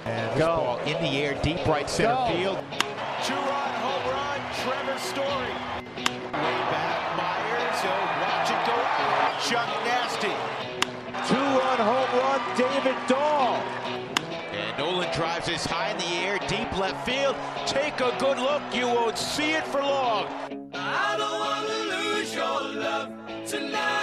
And this ball in the air, deep right center field. Two-run home run, Trevor Story. Way back, Myers. He'll watch it go out. Chuck Nasty. Two-run home run, David Dahl. And Nolan drives this high in the air, deep left field. Take a good look, you won't see it for long. I don't want to lose your love tonight.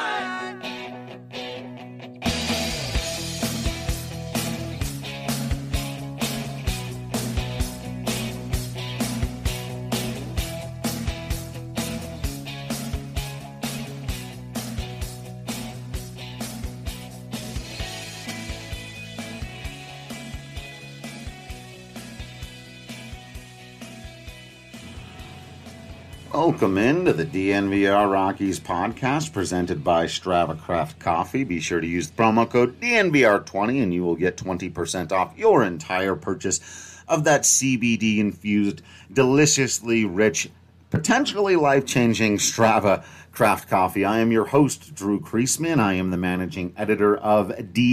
Welcome into the DNVR Rockies podcast presented by Strava Craft Coffee. Be sure to use the promo code DNVR20 and you will get 20% off your entire purchase of that CBD-infused, deliciously rich, potentially life-changing Strava Craft Coffee. I am your host, Drew Kreisman. I am the managing editor of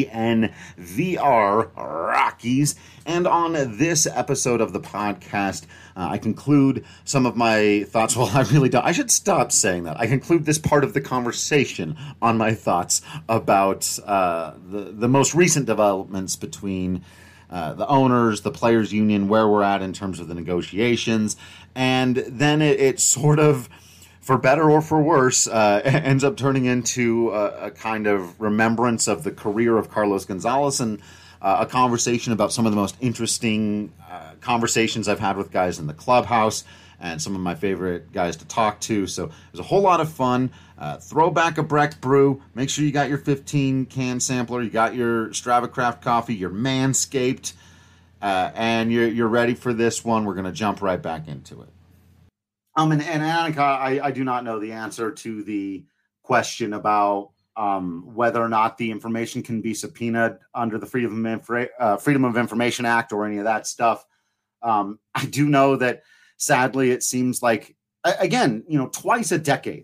DNVR Rockies. And on this episode of the podcast, I conclude some of my thoughts. Well, I really don't. I should stop saying that. I conclude this part of the conversation on my thoughts about the most recent developments between the owners, the players' union, where we're at in terms of the negotiations. And then it sort of, for better or for worse, ends up turning into a kind of remembrance of the career of Carlos Gonzalez and a conversation about some of the most interesting conversations I've had with guys in the clubhouse and some of my favorite guys to talk to. So it was a whole lot of fun. Throw back a Breck brew. Make sure you got your 15-can sampler. You got your Strava Craft coffee, your Manscaped, and you're ready for this one. We're going to jump right back into it. And Annika, I do not know the answer to the question about whether or not the information can be subpoenaed under the Freedom of Information Act or any of that stuff. I do know that, sadly, it seems like, again, twice a decade,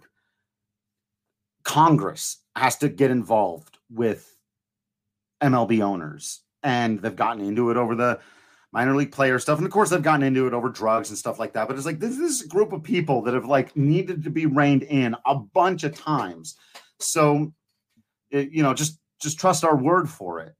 Congress has to get involved with MLB owners, and they've gotten into it over the minor league player stuff. And of course, they've gotten into it over drugs and stuff like that. But it's like, this is a group of people that have needed to be reined in a bunch of times. So, just trust our word for it.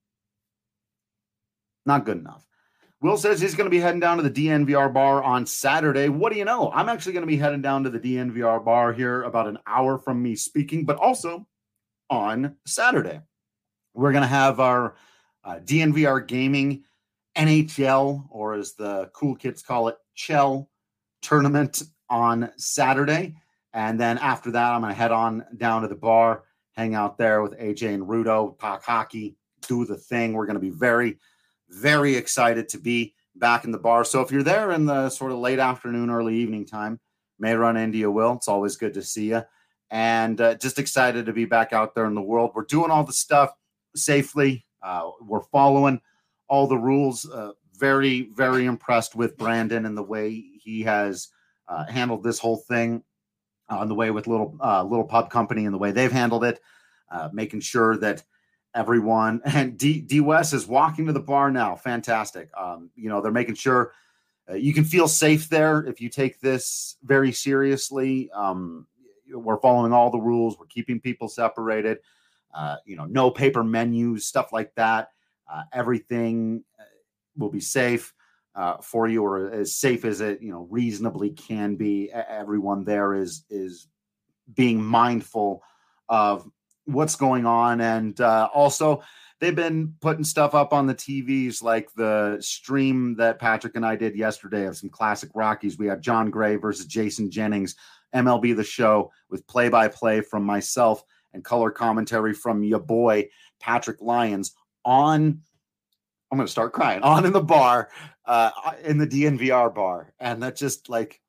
Not good enough. Will says he's going to be heading down to the DNVR bar on Saturday. What do you know? I'm actually going to be heading down to the DNVR bar here about an hour from me speaking, but also on Saturday. We're going to have our DNVR Gaming NHL, or as the cool kids call it, Chell tournament on Saturday. And then after that, I'm going to head on down to the bar, hang out there with AJ and Rudo, talk hockey, do the thing. We're going to be very, very excited to be back in the bar. So if you're there in the sort of late afternoon, early evening time, may run into you, Will. It's always good to see you. And just excited to be back out there in the world. We're doing all the stuff safely. We're following all the rules. Very, very impressed with Brandon and the way he has handled this whole thing on the way with Little Pub Company and the way they've handled it, making sure that everyone, and D West is walking to the bar now. Fantastic. They're making sure you can feel safe there if you take this very seriously. We're following all the rules. We're keeping people separated. No paper menus, stuff like that. Everything will be safe for you, or as safe as it reasonably can be. Everyone there is being mindful of what's going on, and also they've been putting stuff up on the TVs, like the stream that Patrick and I did yesterday of some classic Rockies. We had John Gray versus Jason Jennings, MLB The Show, with play-by-play from myself and color commentary from your boy Patrick Lyons on. I'm going to start crying on in the bar, in the DNVR bar. And that's just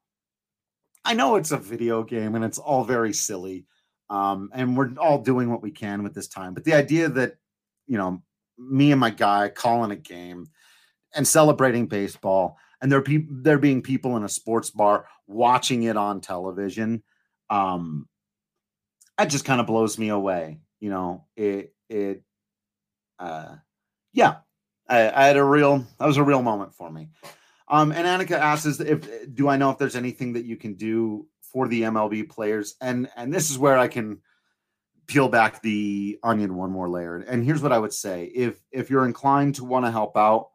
I know it's a video game and it's all very silly. And we're all doing what we can with this time. But the idea that, me and my guy calling a game and celebrating baseball, and there being people in a sports bar watching it on television, it just kind of blows me away. Yeah. that was a real moment for me. And Annika asks, do I know if there's anything that you can do for the MLB players? And this is where I can peel back the onion one more layer. And here's what I would say. If you're inclined to want to help out,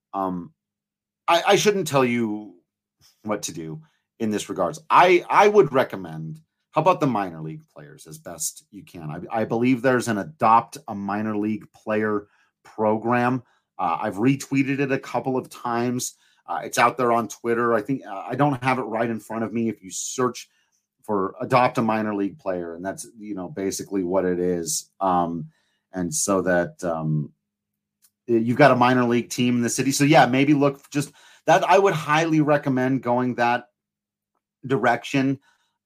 I shouldn't tell you what to do in this regards. I would recommend, how about the minor league players as best you can? I believe there's an Adopt a Minor League Player program. I've retweeted it a couple of times. It's out there on Twitter. I think I don't have it right in front of me. If you search for Adopt a Minor League Player, and that's, basically what it is. And so that you've got a minor league team in the city. So yeah, maybe look just that. I would highly recommend going that direction.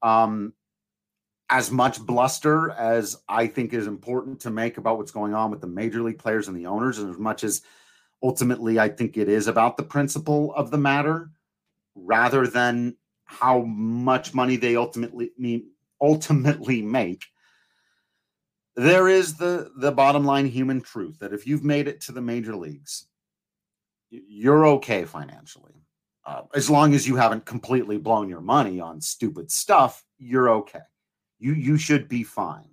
As much bluster as I think is important to make about what's going on with the major league players and the owners, and as much as ultimately I think it is about the principle of the matter rather than how much money they ultimately make. There is the bottom line human truth that if you've made it to the major leagues, you're okay financially. As long as you haven't completely blown your money on stupid stuff, you're okay. You should be fine.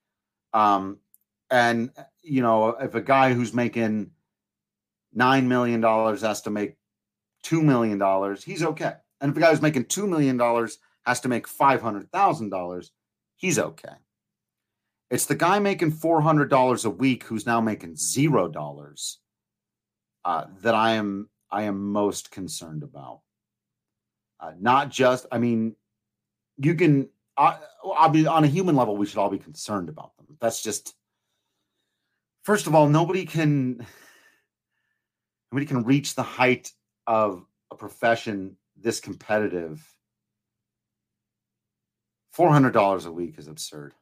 And if a guy who's making $9 million has to make $2 million, he's okay. And if a guy who's making $2 million has to make $500,000, he's okay. It's the guy making $400 a week who's now making $0 that I am most concerned about. Not just, you can. I'll be on a human level. We should all be concerned about them. That's just, first of all, nobody can reach the height of a profession this competitive. $400 a week is absurd.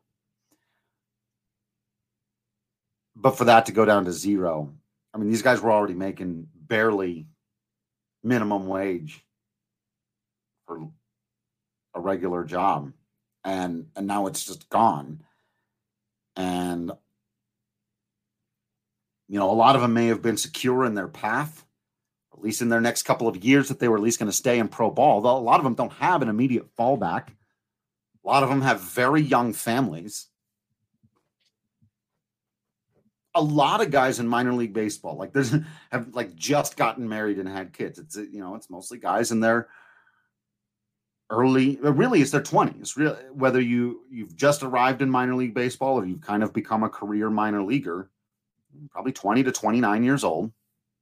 But for that to go down to zero, these guys were already making barely minimum wage for a regular job. And now it's just gone. And, a lot of them may have been secure in their path, at least in their next couple of years, that they were at least going to stay in pro ball. Though a lot of them don't have an immediate fallback. A lot of them have very young families. A lot of guys in minor league baseball, have just gotten married and had kids. It's, it's mostly guys in their early, really it's their 20s. Really, whether you've just arrived in minor league baseball or you've kind of become a career minor leaguer, probably 20 to 29 years old.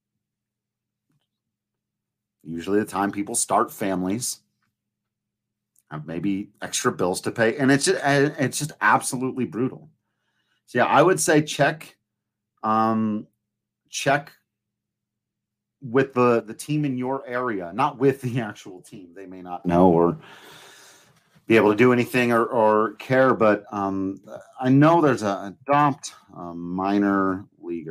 Usually the time people start families, have maybe extra bills to pay, and it's just absolutely brutal. So yeah, I would say check with the team in your area, not with the actual team. They may not know or be able to do anything or care, but I know there's Adopt a Minor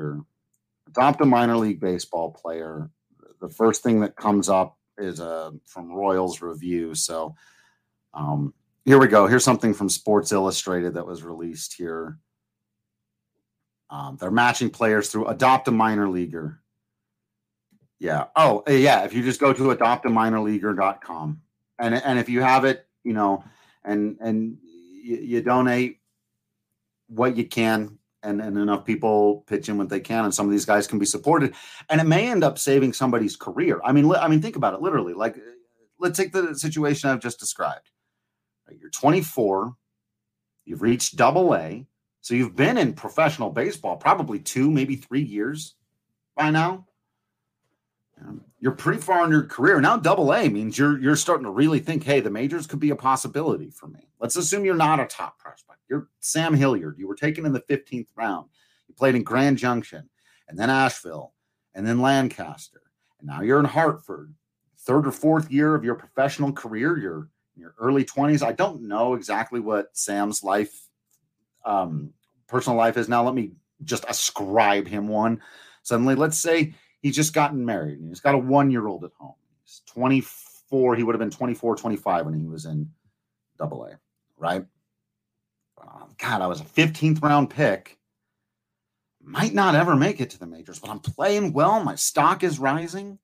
League Baseball player. The first thing that comes up is from Royals Review. So here we go. Here's something from Sports Illustrated that was released here. They're matching players through Adopt a Minor Leaguer. Yeah. Oh, yeah. If you just go to adoptaminorleaguer.com and if you have it, and you donate what you can, and enough people pitch in what they can, and some of these guys can be supported, and it may end up saving somebody's career. Think about it literally. Like, let's take the situation I've just described. You're 24, you've reached Double-A, so you've been in professional baseball probably 2, maybe 3 years by now. You're pretty far in your career. Now Double-A means you're starting to really think, hey, the majors could be a possibility for me. Let's assume you're not a top prospect. You're Sam Hilliard. You were taken in the 15th round. You played in Grand Junction and then Asheville and then Lancaster. And now you're in Hartford. 3rd or 4th year of your professional career. You're in your early 20s. I don't know exactly what Sam's life, personal life is now. Let me just ascribe him one. Suddenly, let's say he's just gotten married and he's got a 1-year-old at home. He's 24. He would have been 24, 25 when he was in Double-A, right? God, I was a 15th round pick. might not ever make it to the majors, but I'm playing well. My stock is rising.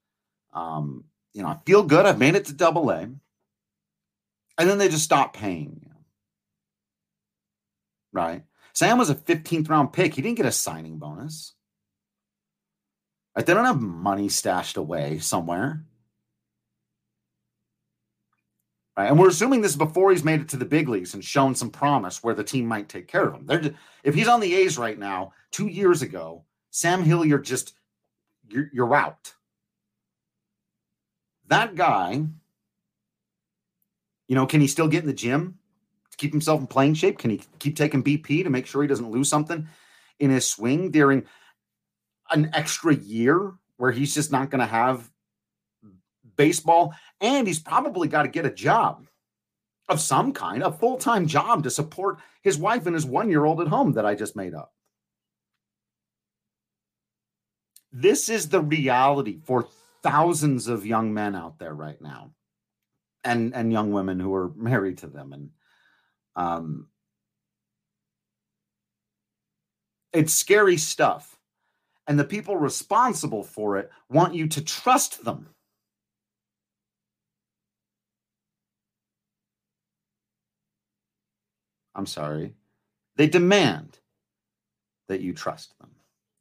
I feel good. I've made it to AA. And then they just stop paying you. Right? Sam was a 15th round pick. He didn't get a signing bonus. Right? They don't have money stashed away somewhere. Right? And we're assuming this is before he's made it to the big leagues and shown some promise where the team might take care of him. If he's on the A's right now, 2 years ago, Sam Hilliard you're out. That guy, can he still get in the gym to keep himself in playing shape? Can he keep taking BP to make sure he doesn't lose something in his swing during an extra year where he's just not going to have baseball? And he's probably got to get a job of some kind, a full-time job to support his wife and his 1-year-old at home that I just made up. This is the reality for thousands of young men out there right now, and young women who are married to them. And it's scary stuff. And the people responsible for it want you to trust them. I'm sorry. They demand that you trust them.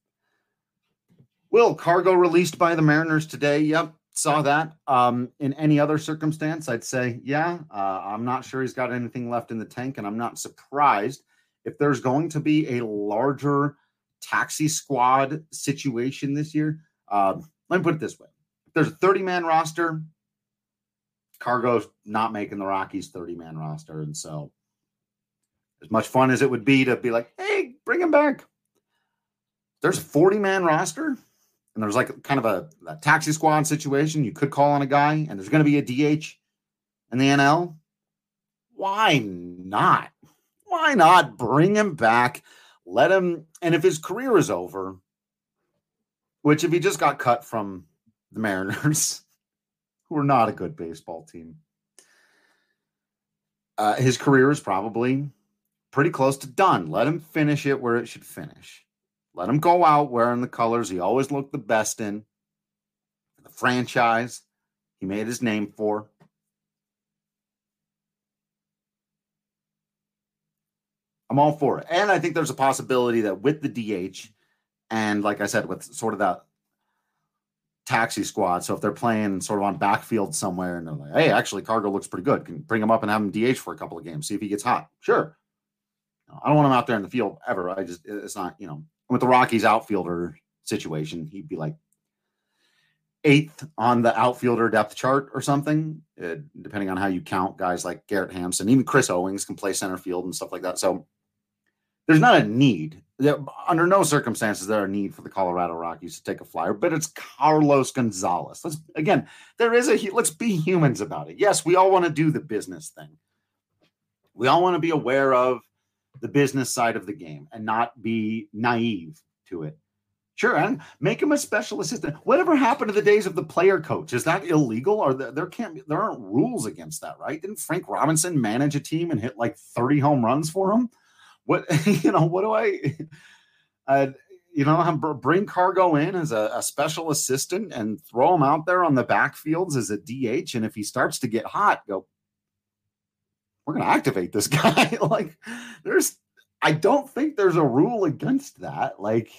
Will Cargo released by the Mariners today? Yep, saw that. In any other circumstance, I'd say, yeah. I'm not sure he's got anything left in the tank, and I'm not surprised if there's going to be a larger taxi squad situation this year. Let me put it this way. If there's a 30-man roster, Cargo's not making the Rockies 30-man roster. And so as much fun as it would be to be like, hey, bring him back. There's a 40-man roster, and there's like kind of a taxi squad situation. You could call on a guy, and there's going to be a DH in the NL. Why not? Why not bring him back? Let him, and if his career is over, which if he just got cut from the Mariners, who are not a good baseball team, his career is probably pretty close to done. Let him finish it where it should finish. Let him go out wearing the colors he always looked the best in, the franchise he made his name for. I'm all for it. And I think there's a possibility that with the DH and, like I said, with sort of that taxi squad, so if they're playing sort of on backfield somewhere and they're like, hey, actually, Cargo looks pretty good. Can you bring him up and have him DH for a couple of games, see if he gets hot? Sure. I don't want him out there in the field ever. It's not, with the Rockies outfielder situation, he'd be like 8th on the outfielder depth chart or something, depending on how you count guys like Garrett Hampson. Even Chris Owings can play center field and stuff like that. So there's not a need. Under no circumstances is there a need for the Colorado Rockies to take a flyer, but it's Carlos Gonzalez. Let's be humans about it. Yes, we all want to do the business thing. We all want to be aware of the business side of the game and not be naive to it. Sure, and make him a special assistant. Whatever happened to the days of the player coach? Is that illegal? Or there aren't rules against that, right? Didn't Frank Robinson manage a team and hit like 30 home runs for him? What bring Cargo in as a special assistant and throw him out there on the backfields as a DH, and if he starts to get hot, go, we're going to activate this guy. I don't think there's a rule against that.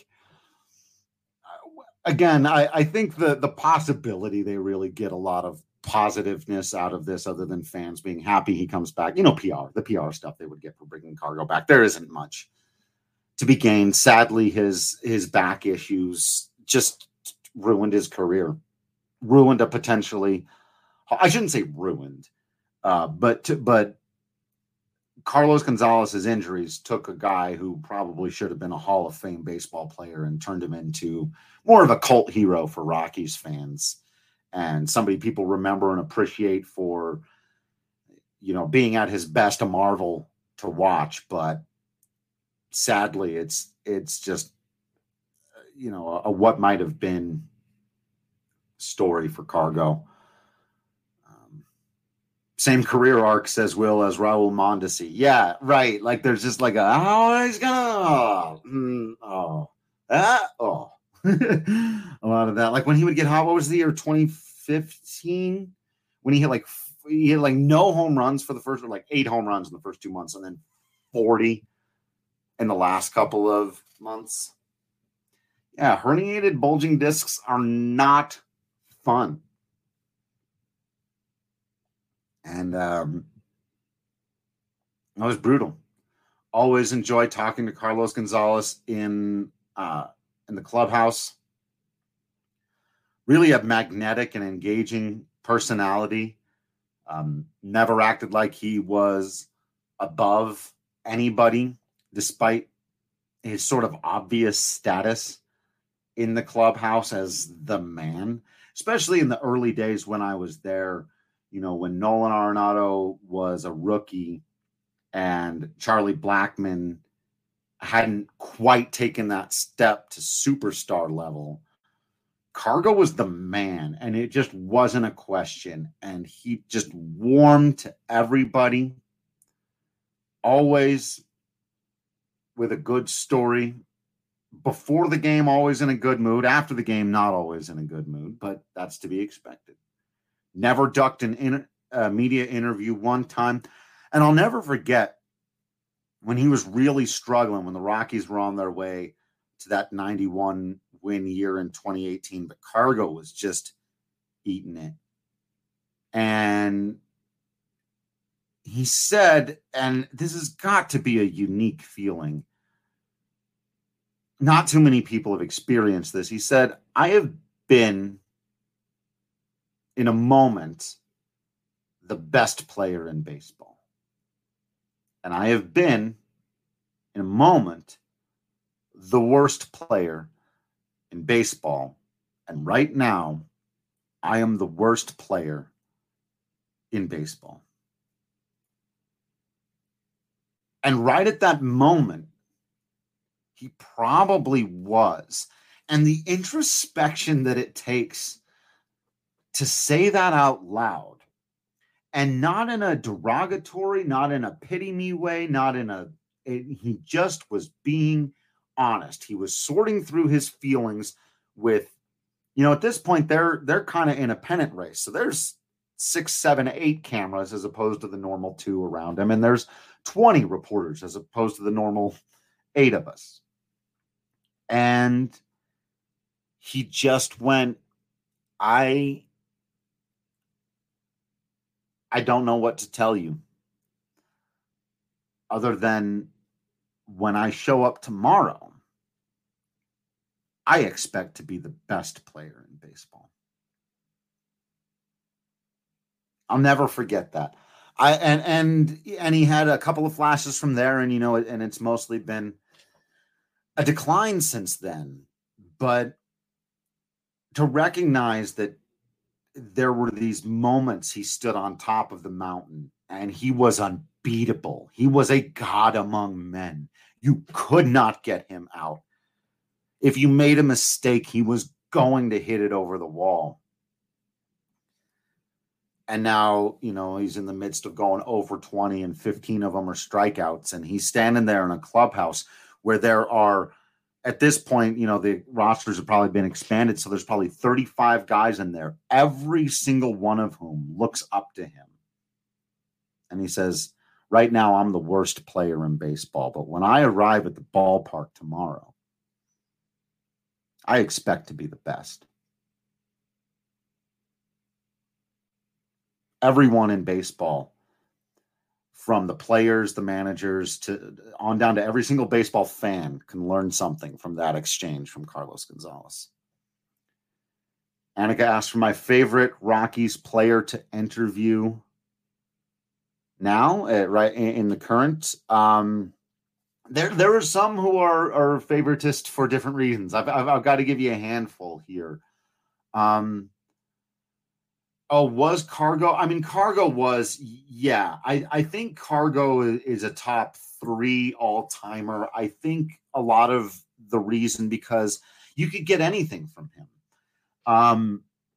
Again, I think the possibility they really get a lot of positiveness out of this other than fans being happy he comes back. The PR stuff they would get for bringing Cargo back. There isn't much to be gained. Sadly, his back issues just ruined his career. Ruined a potentially, I shouldn't say ruined, but Carlos Gonzalez's injuries took a guy who probably should have been a Hall of Fame baseball player and turned him into more of a cult hero for Rockies fans and somebody people remember and appreciate for, being at his best, a marvel to watch. But sadly, it's just, a what might have been story for Cargo. Same career arc, says Will, as Raul Mondesi. Yeah, right. Like there's just like he's gonna a lot of that. Like when he would get hot, what was the year 2015 when he had like no home runs for the first, or like 8 home runs in the first 2 months, and then 40 in the last couple of months. Yeah, herniated bulging discs are not fun. And that was brutal. Always enjoyed talking to Carlos Gonzalez in the clubhouse. Really a magnetic and engaging personality. Never acted like he was above anybody, despite his sort of obvious status in the clubhouse as the man, especially in the early days when I was there. You know, when Nolan Arenado was a rookie and Charlie Blackmon hadn't quite taken that step to superstar level, Cargo was the man, and it just wasn't a question. And he just warmed to everybody, always with a good story. Before the game, always in a good mood. After the game, not always in a good mood, but that's to be expected. Never ducked an media interview one time. And I'll never forget when he was really struggling, when the Rockies were on their way to that 91 win year in 2018, but Cargo was just eating it. And he said, and this has got to be a unique feeling, not too many people have experienced this. He said, I have been, in a moment, the best player in baseball. And I have been, in a moment, the worst player in baseball. And right now, I am the worst player in baseball. And right at that moment, he probably was. And the introspection that it takes to say that out loud, and not in a derogatory, not in a pity me way, he just was being honest. He was sorting through his feelings with, at this point, they're kind of in a pennant race. So there's 6, 7, 8 cameras as opposed to the normal 2 around him. And there's 20 reporters as opposed to the normal 8 of us. And he just went, I don't know what to tell you other than when I show up tomorrow, I expect to be the best player in baseball. I'll never forget that. And he had a couple of flashes from there, and and it's mostly been a decline since then. But to recognize that there were these moments he stood on top of the mountain and he was unbeatable. He was a god among men. You could not get him out. If you made a mistake, he was going to hit it over the wall. And now, he's in the midst of going over 20 and 15 of them are strikeouts. And he's standing there in a clubhouse where there are, at this point, the rosters have probably been expanded. So there's probably 35 guys in there, every single one of whom looks up to him. And he says, right now, I'm the worst player in baseball. But when I arrive at the ballpark tomorrow, I expect to be the best. Everyone in baseball, from the players, the managers, to on down to every single baseball fan, can learn something from that exchange from Carlos Gonzalez. Annika asked for my favorite Rockies player to interview now, right in the current. There are some who are favoritist for different reasons. I've got to give you a handful here. Was Cargo? I mean, Cargo was, yeah. I think Cargo is a top 3 all-timer. I think a lot of the reason because you could get anything from him.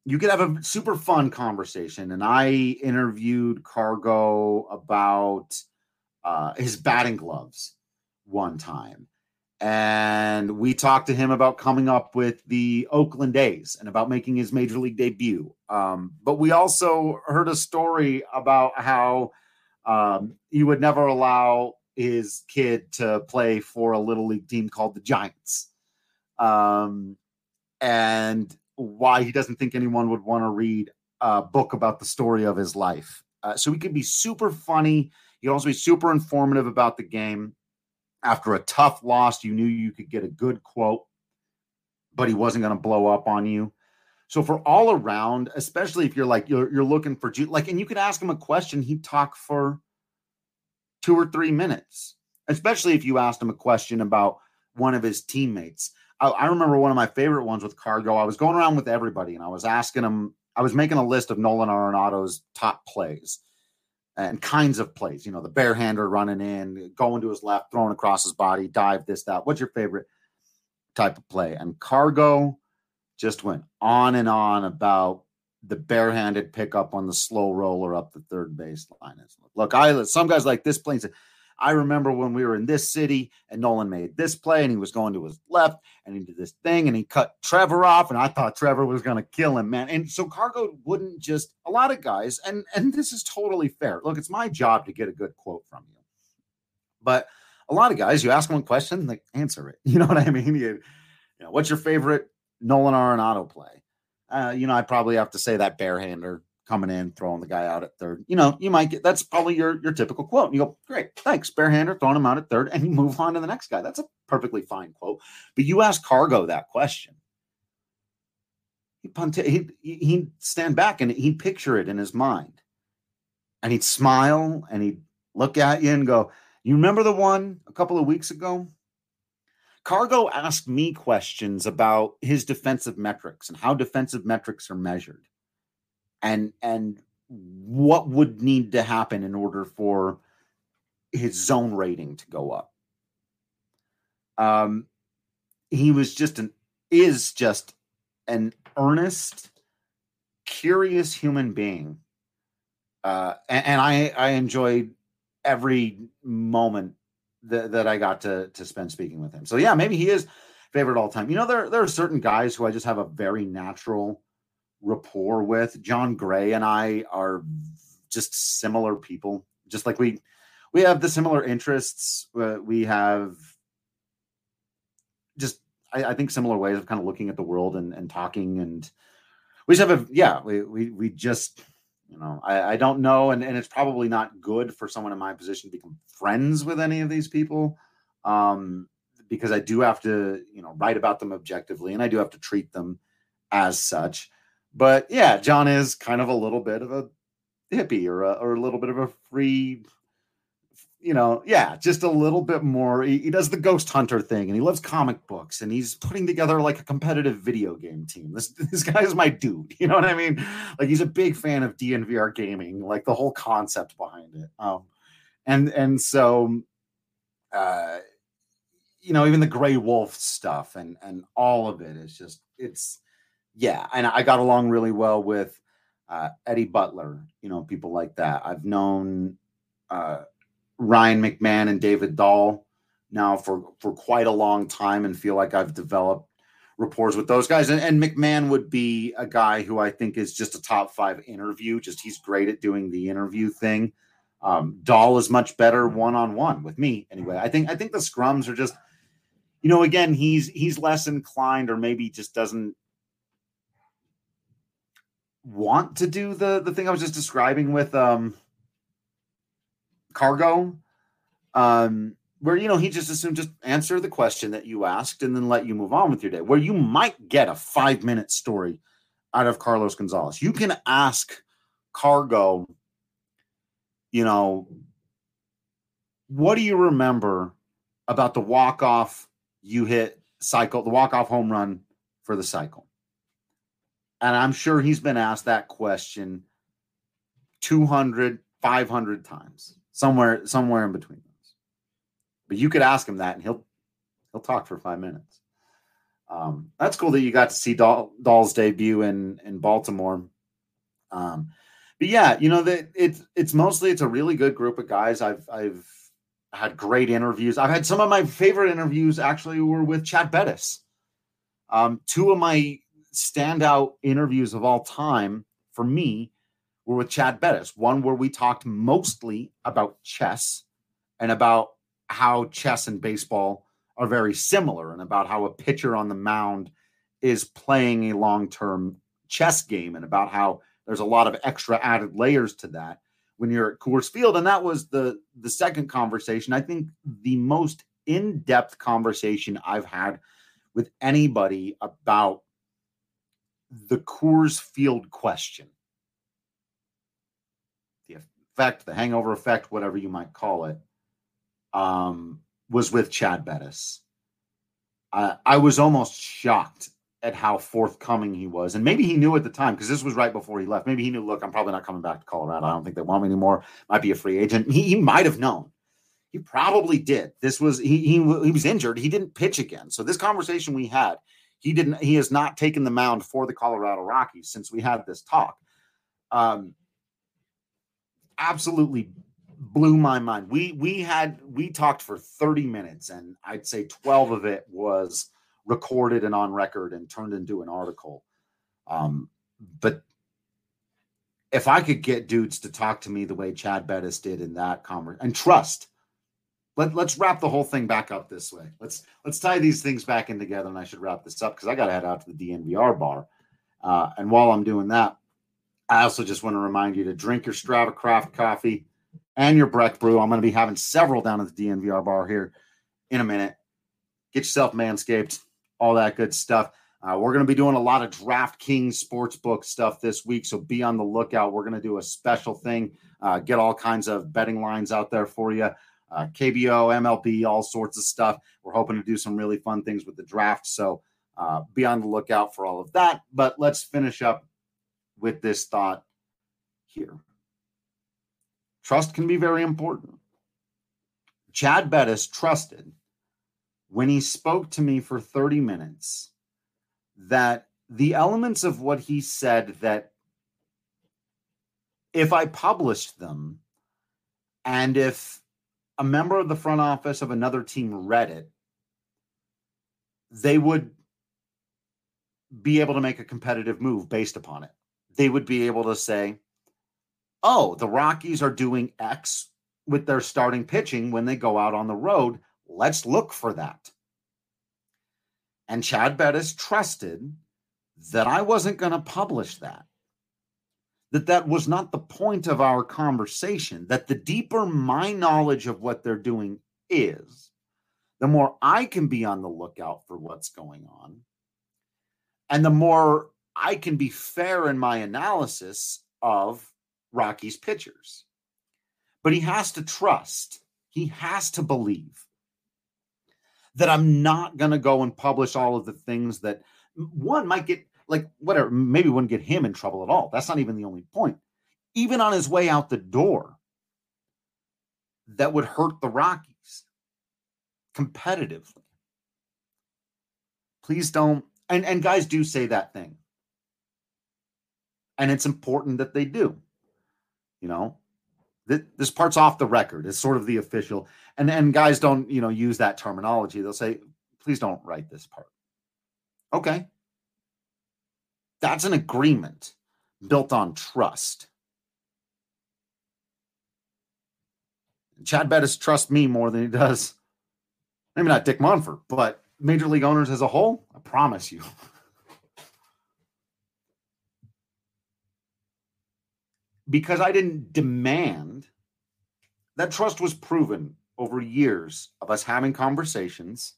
you could have a super fun conversation. And I interviewed Cargo about his batting gloves one time. And we talked to him about coming up with the Oakland A's and about making his major league debut. But we also heard a story about how he would never allow his kid to play for a little league team called the Giants. And why he doesn't think anyone would want to read a book about the story of his life. So he could be super funny. He could also be super informative about the game. After a tough loss, you knew you could get a good quote, but he wasn't going to blow up on you. So for all around, especially if you're looking for, and you could ask him a question, he'd talk for 2 or 3 minutes, especially if you asked him a question about one of his teammates. I remember one of my favorite ones with Cargo. I was going around with everybody and I was asking him, I was making a list of Nolan Arenado's top plays and kinds of plays, the barehander running in, going to his left, throwing across his body, dive, this, that. What's your favorite type of play? And Cargo just went on and on about the barehanded pickup on the slow roller up the third baseline. Look, some guys like this play. I remember when we were in this city and Nolan made this play and he was going to his left and he did this thing and he cut Trevor off and I thought Trevor was going to kill him, man. And so Cargo wouldn't just, a lot of guys, and this is totally fair. Look, it's my job to get a good quote from you. But a lot of guys, you ask them a question, they answer it. You know what I mean? What's your favorite Nolan Arenado play? I'd probably have to say that barehander coming in, throwing the guy out at third. You might get, that's probably your typical quote. And you go, great, thanks, barehander, throwing him out at third, and you move on to the next guy. That's a perfectly fine quote. But you ask Cargo that question, he'd stand back and he'd picture it in his mind. And he'd smile and he'd look at you and go, you remember the one a couple of weeks ago? Cargo asked me questions about his defensive metrics and how defensive metrics are measured. And what would need to happen in order for his zone rating to go up. He was is just an earnest, curious human being. And I enjoyed every moment that I got to spend speaking with him. So yeah, maybe he is favorite all time. There are certain guys who I just have a very natural rapport with. John Gray and I are just similar people. Just like we have the similar interests. We have just, I think, similar ways of kind of looking at the world and talking. And we just have we just, I don't know. And it's probably not good for someone in my position to become friends with any of these people. Because I do have to, write about them objectively and I do have to treat them as such. But yeah, John is kind of a little bit of a hippie or a little bit of a free, just a little bit more. He does the ghost hunter thing and he loves comic books and he's putting together like a competitive video game team. This guy is my dude. You know what I mean? Like he's a big fan of DNVR gaming, like the whole concept behind it. So even the Gray Wolf stuff and all of it is just, yeah. And I got along really well with Eddie Butler, people like that. I've known Ryan McMahon and David Dahl now for quite a long time and feel like I've developed rapport with those guys. And McMahon would be a guy who I think is just a top 5 interview. He's great at doing the interview thing. Dahl is much better one-on-one with me anyway. I think the scrums are just, again, he's less inclined or maybe just doesn't want to do the thing I was just describing with Cargo, where he just assumed just answer the question that you asked and then let you move on with your day, where you might get a 5-minute story out of Carlos Gonzalez. You can ask Cargo, what do you remember about the walk-off you hit cycle, the walk-off home run for the cycle? And I'm sure he's been asked that question 200, 500 times, somewhere in between those. But you could ask him that and he'll talk for 5 minutes. That's cool that you got to see Dahl's debut in Baltimore. But yeah, it's a really good group of guys. I've had great interviews. I've had some of my favorite interviews actually were with Chad Bettis. Two of my standout interviews of all time for me were with Chad Bettis. One where we talked mostly about chess and about how chess and baseball are very similar and about how a pitcher on the mound is playing a long-term chess game and about how there's a lot of extra added layers to that when you're at Coors Field. And that was the second conversation. I think the most in-depth conversation I've had with anybody about the Coors Field question. The effect, the hangover effect, whatever you might call it, was with Chad Bettis. I was almost shocked at how forthcoming he was. And maybe he knew at the time, because this was right before he left. Maybe he knew, look, I'm probably not coming back to Colorado. I don't think they want me anymore. Might be a free agent. He might have known. He probably did. This was he was injured. He didn't pitch again. So this conversation we had, he has not taken the mound for the Colorado Rockies since we had this talk. Absolutely blew my mind. We talked for 30 minutes, and I'd say 12 of it was recorded and on record and turned into an article. But if I could get dudes to talk to me the way Chad Bettis did in that conversation, and trust, let's wrap the whole thing back up this way. Let's tie these things back in together, and I should wrap this up because I got to head out to the DNVR bar. And while I'm doing that, I also just want to remind you to drink your Strava Craft coffee and your Breck Brew. I'm going to be having several down at the DNVR bar here in a minute. Get yourself Manscaped, all that good stuff. We're going to be doing a lot of DraftKings Sportsbook stuff this week, so be on the lookout. We're going to do a special thing, get all kinds of betting lines out there for you. KBO, MLB, all sorts of stuff. We're hoping to do some really fun things with the draft, so be on the lookout for all of that. But let's finish up with this thought here. Trust can be very important. Chad Bettis trusted when he spoke to me for 30 minutes that the elements of what he said, that if I published them and if a member of the front office of another team read it, they would be able to make a competitive move based upon it. They would be able to say, oh, the Rockies are doing X with their starting pitching when they go out on the road. Let's look for that. And Chad Bettis trusted that I wasn't going to publish that. That was not the point of our conversation. That the deeper my knowledge of what they're doing is, the more I can be on the lookout for what's going on. And the more I can be fair in my analysis of Rockies pitchers. But he has to trust. He has to believe that I'm not going to go and publish all of the things that one might get, like, whatever, maybe wouldn't get him in trouble at all. That's not even the only point. Even on his way out the door, that would hurt the Rockies competitively. Please don't. And guys do say that thing. And it's important that they do. You know, this part's off the record. It's sort of the official. And guys don't, use that terminology. They'll say, please don't write this part. Okay. That's an agreement built on trust. Chad Bettis trusts me more than he does, maybe not Dick Monfort, but Major League owners as a whole, I promise you. Because I didn't demand, that trust was proven over years of us having conversations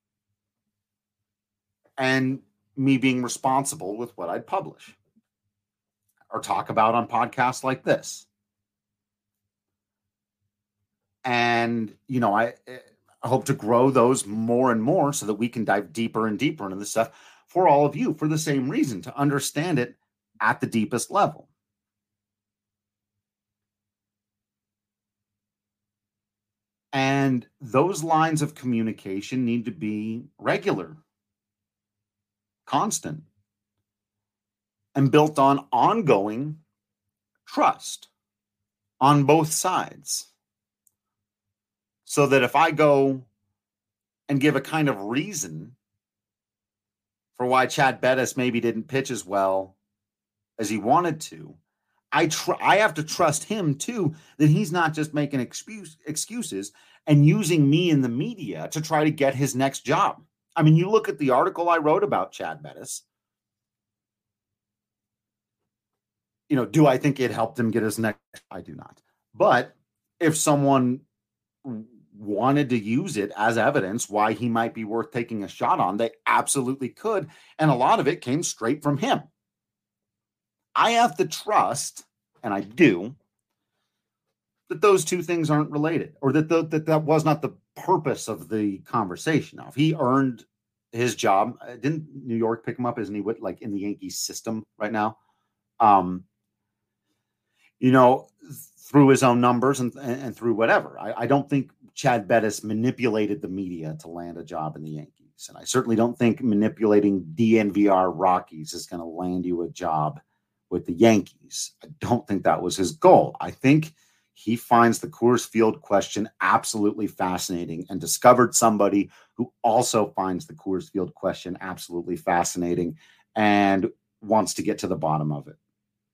and me being responsible with what I'd publish or talk about on podcasts like this. And, I hope to grow those more and more so that we can dive deeper and deeper into this stuff for all of you for the same reason, to understand it at the deepest level. And those lines of communication need to be regular. constant and built on ongoing trust on both sides. So that if I go and give a kind of reason for why Chad Bettis maybe didn't pitch as well as he wanted to, I have to trust him too, that he's not just making excuses and using me in the media to try to get his next job. I mean, you look at the article I wrote about Chad Bettis. You know, do I think it helped him get his next? I do not. But if someone wanted to use it as evidence why he might be worth taking a shot on, they absolutely could. And a lot of it came straight from him. I have to trust, and I do, that those two things aren't related, or that was not the purpose of the conversation. Now, if he earned his job, didn't New York pick him up? Isn't he like in the Yankees system right now? You know, through his own numbers and through whatever. I don't think Chad Bettis manipulated the media to land a job in the Yankees. And I certainly don't think manipulating DNVR Rockies is going to land you a job with the Yankees. I don't think that was his goal. I think he finds the Coors Field question absolutely fascinating and discovered somebody who also finds the Coors Field question absolutely fascinating and wants to get to the bottom of it.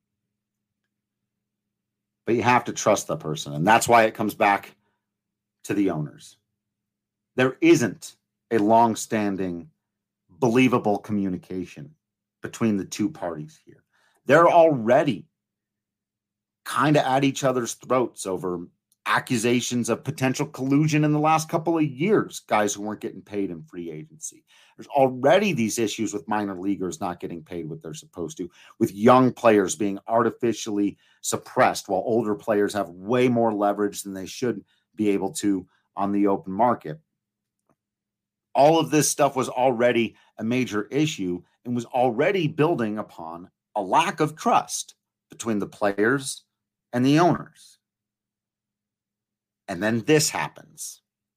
But you have to trust the person. And that's why it comes back to the owners. There isn't a long-standing, believable communication between the two parties here. They're already kind of at each other's throats over accusations of potential collusion in the last couple of years, guys who weren't getting paid in free agency. There's already these issues with minor leaguers not getting paid what they're supposed to, with young players being artificially suppressed while older players have way more leverage than they should be able to on the open market. All of this stuff was already a major issue and was already building upon a lack of trust between the players and the owners. And then this happens.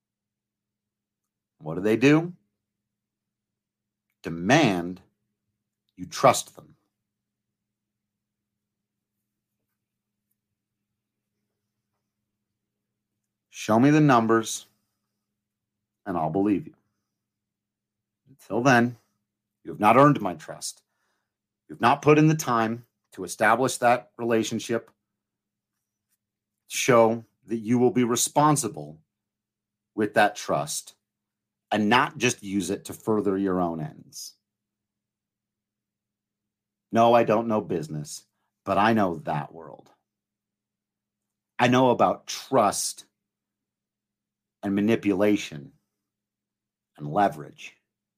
What do? Demand you trust them. Show me the numbers, and I'll believe you. Until then, you have not earned my trust. You've not put in the time to establish that relationship, show that you will be responsible with that trust and not just use it to further your own ends. No, I don't know business, but I know that world. I know about trust and manipulation and leverage.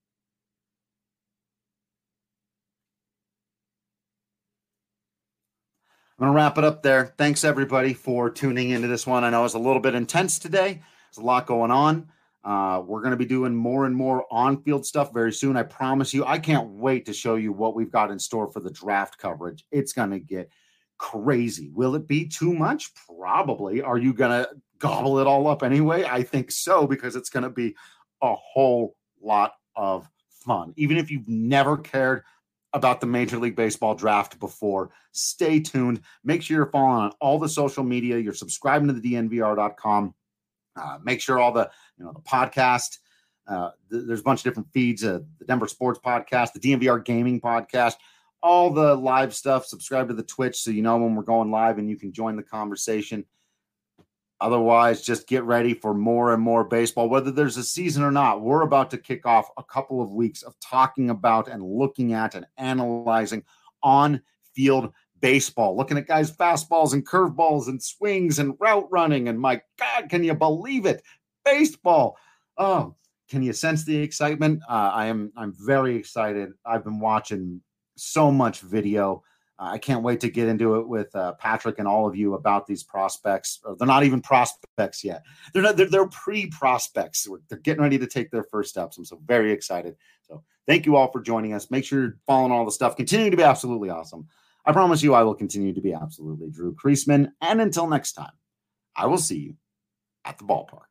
I'm going to wrap it up there. Thanks, everybody, for tuning into this one. I know it's a little bit intense today. There's a lot going on. We're going to be doing more and more on-field stuff very soon. I promise you. I can't wait to show you what we've got in store for the draft coverage. It's going to get crazy. Will it be too much? Probably. Are you going to gobble it all up anyway? I think so, because it's going to be a whole lot of fun. Even if you've never cared about the Major League Baseball draft before, stay tuned. Make sure you're following on all the social media. You're subscribing to the DNVR.com. Make sure all the podcast, there's a bunch of different feeds, the Denver Sports Podcast, the DNVR Gaming Podcast, all the live stuff. Subscribe to the Twitch so you know when we're going live and you can join the conversation. Otherwise, just get ready for more and more baseball, whether there's a season or not. We're about to kick off a couple of weeks of talking about and looking at and analyzing on-field baseball, looking at guys' fastballs and curveballs and swings and route running. And my God, can you believe it? Baseball. Oh, can you sense the excitement? I'm very excited. I've been watching so much video. I can't wait to get into it with Patrick and all of you about these prospects. They're not even prospects yet. They're pre-prospects. They're getting ready to take their first steps. I'm so very excited. So thank you all for joining us. Make sure you're following all the stuff. Continue to be absolutely awesome. I promise you I will continue to be absolutely Drew Creasman. And until next time, I will see you at the ballpark.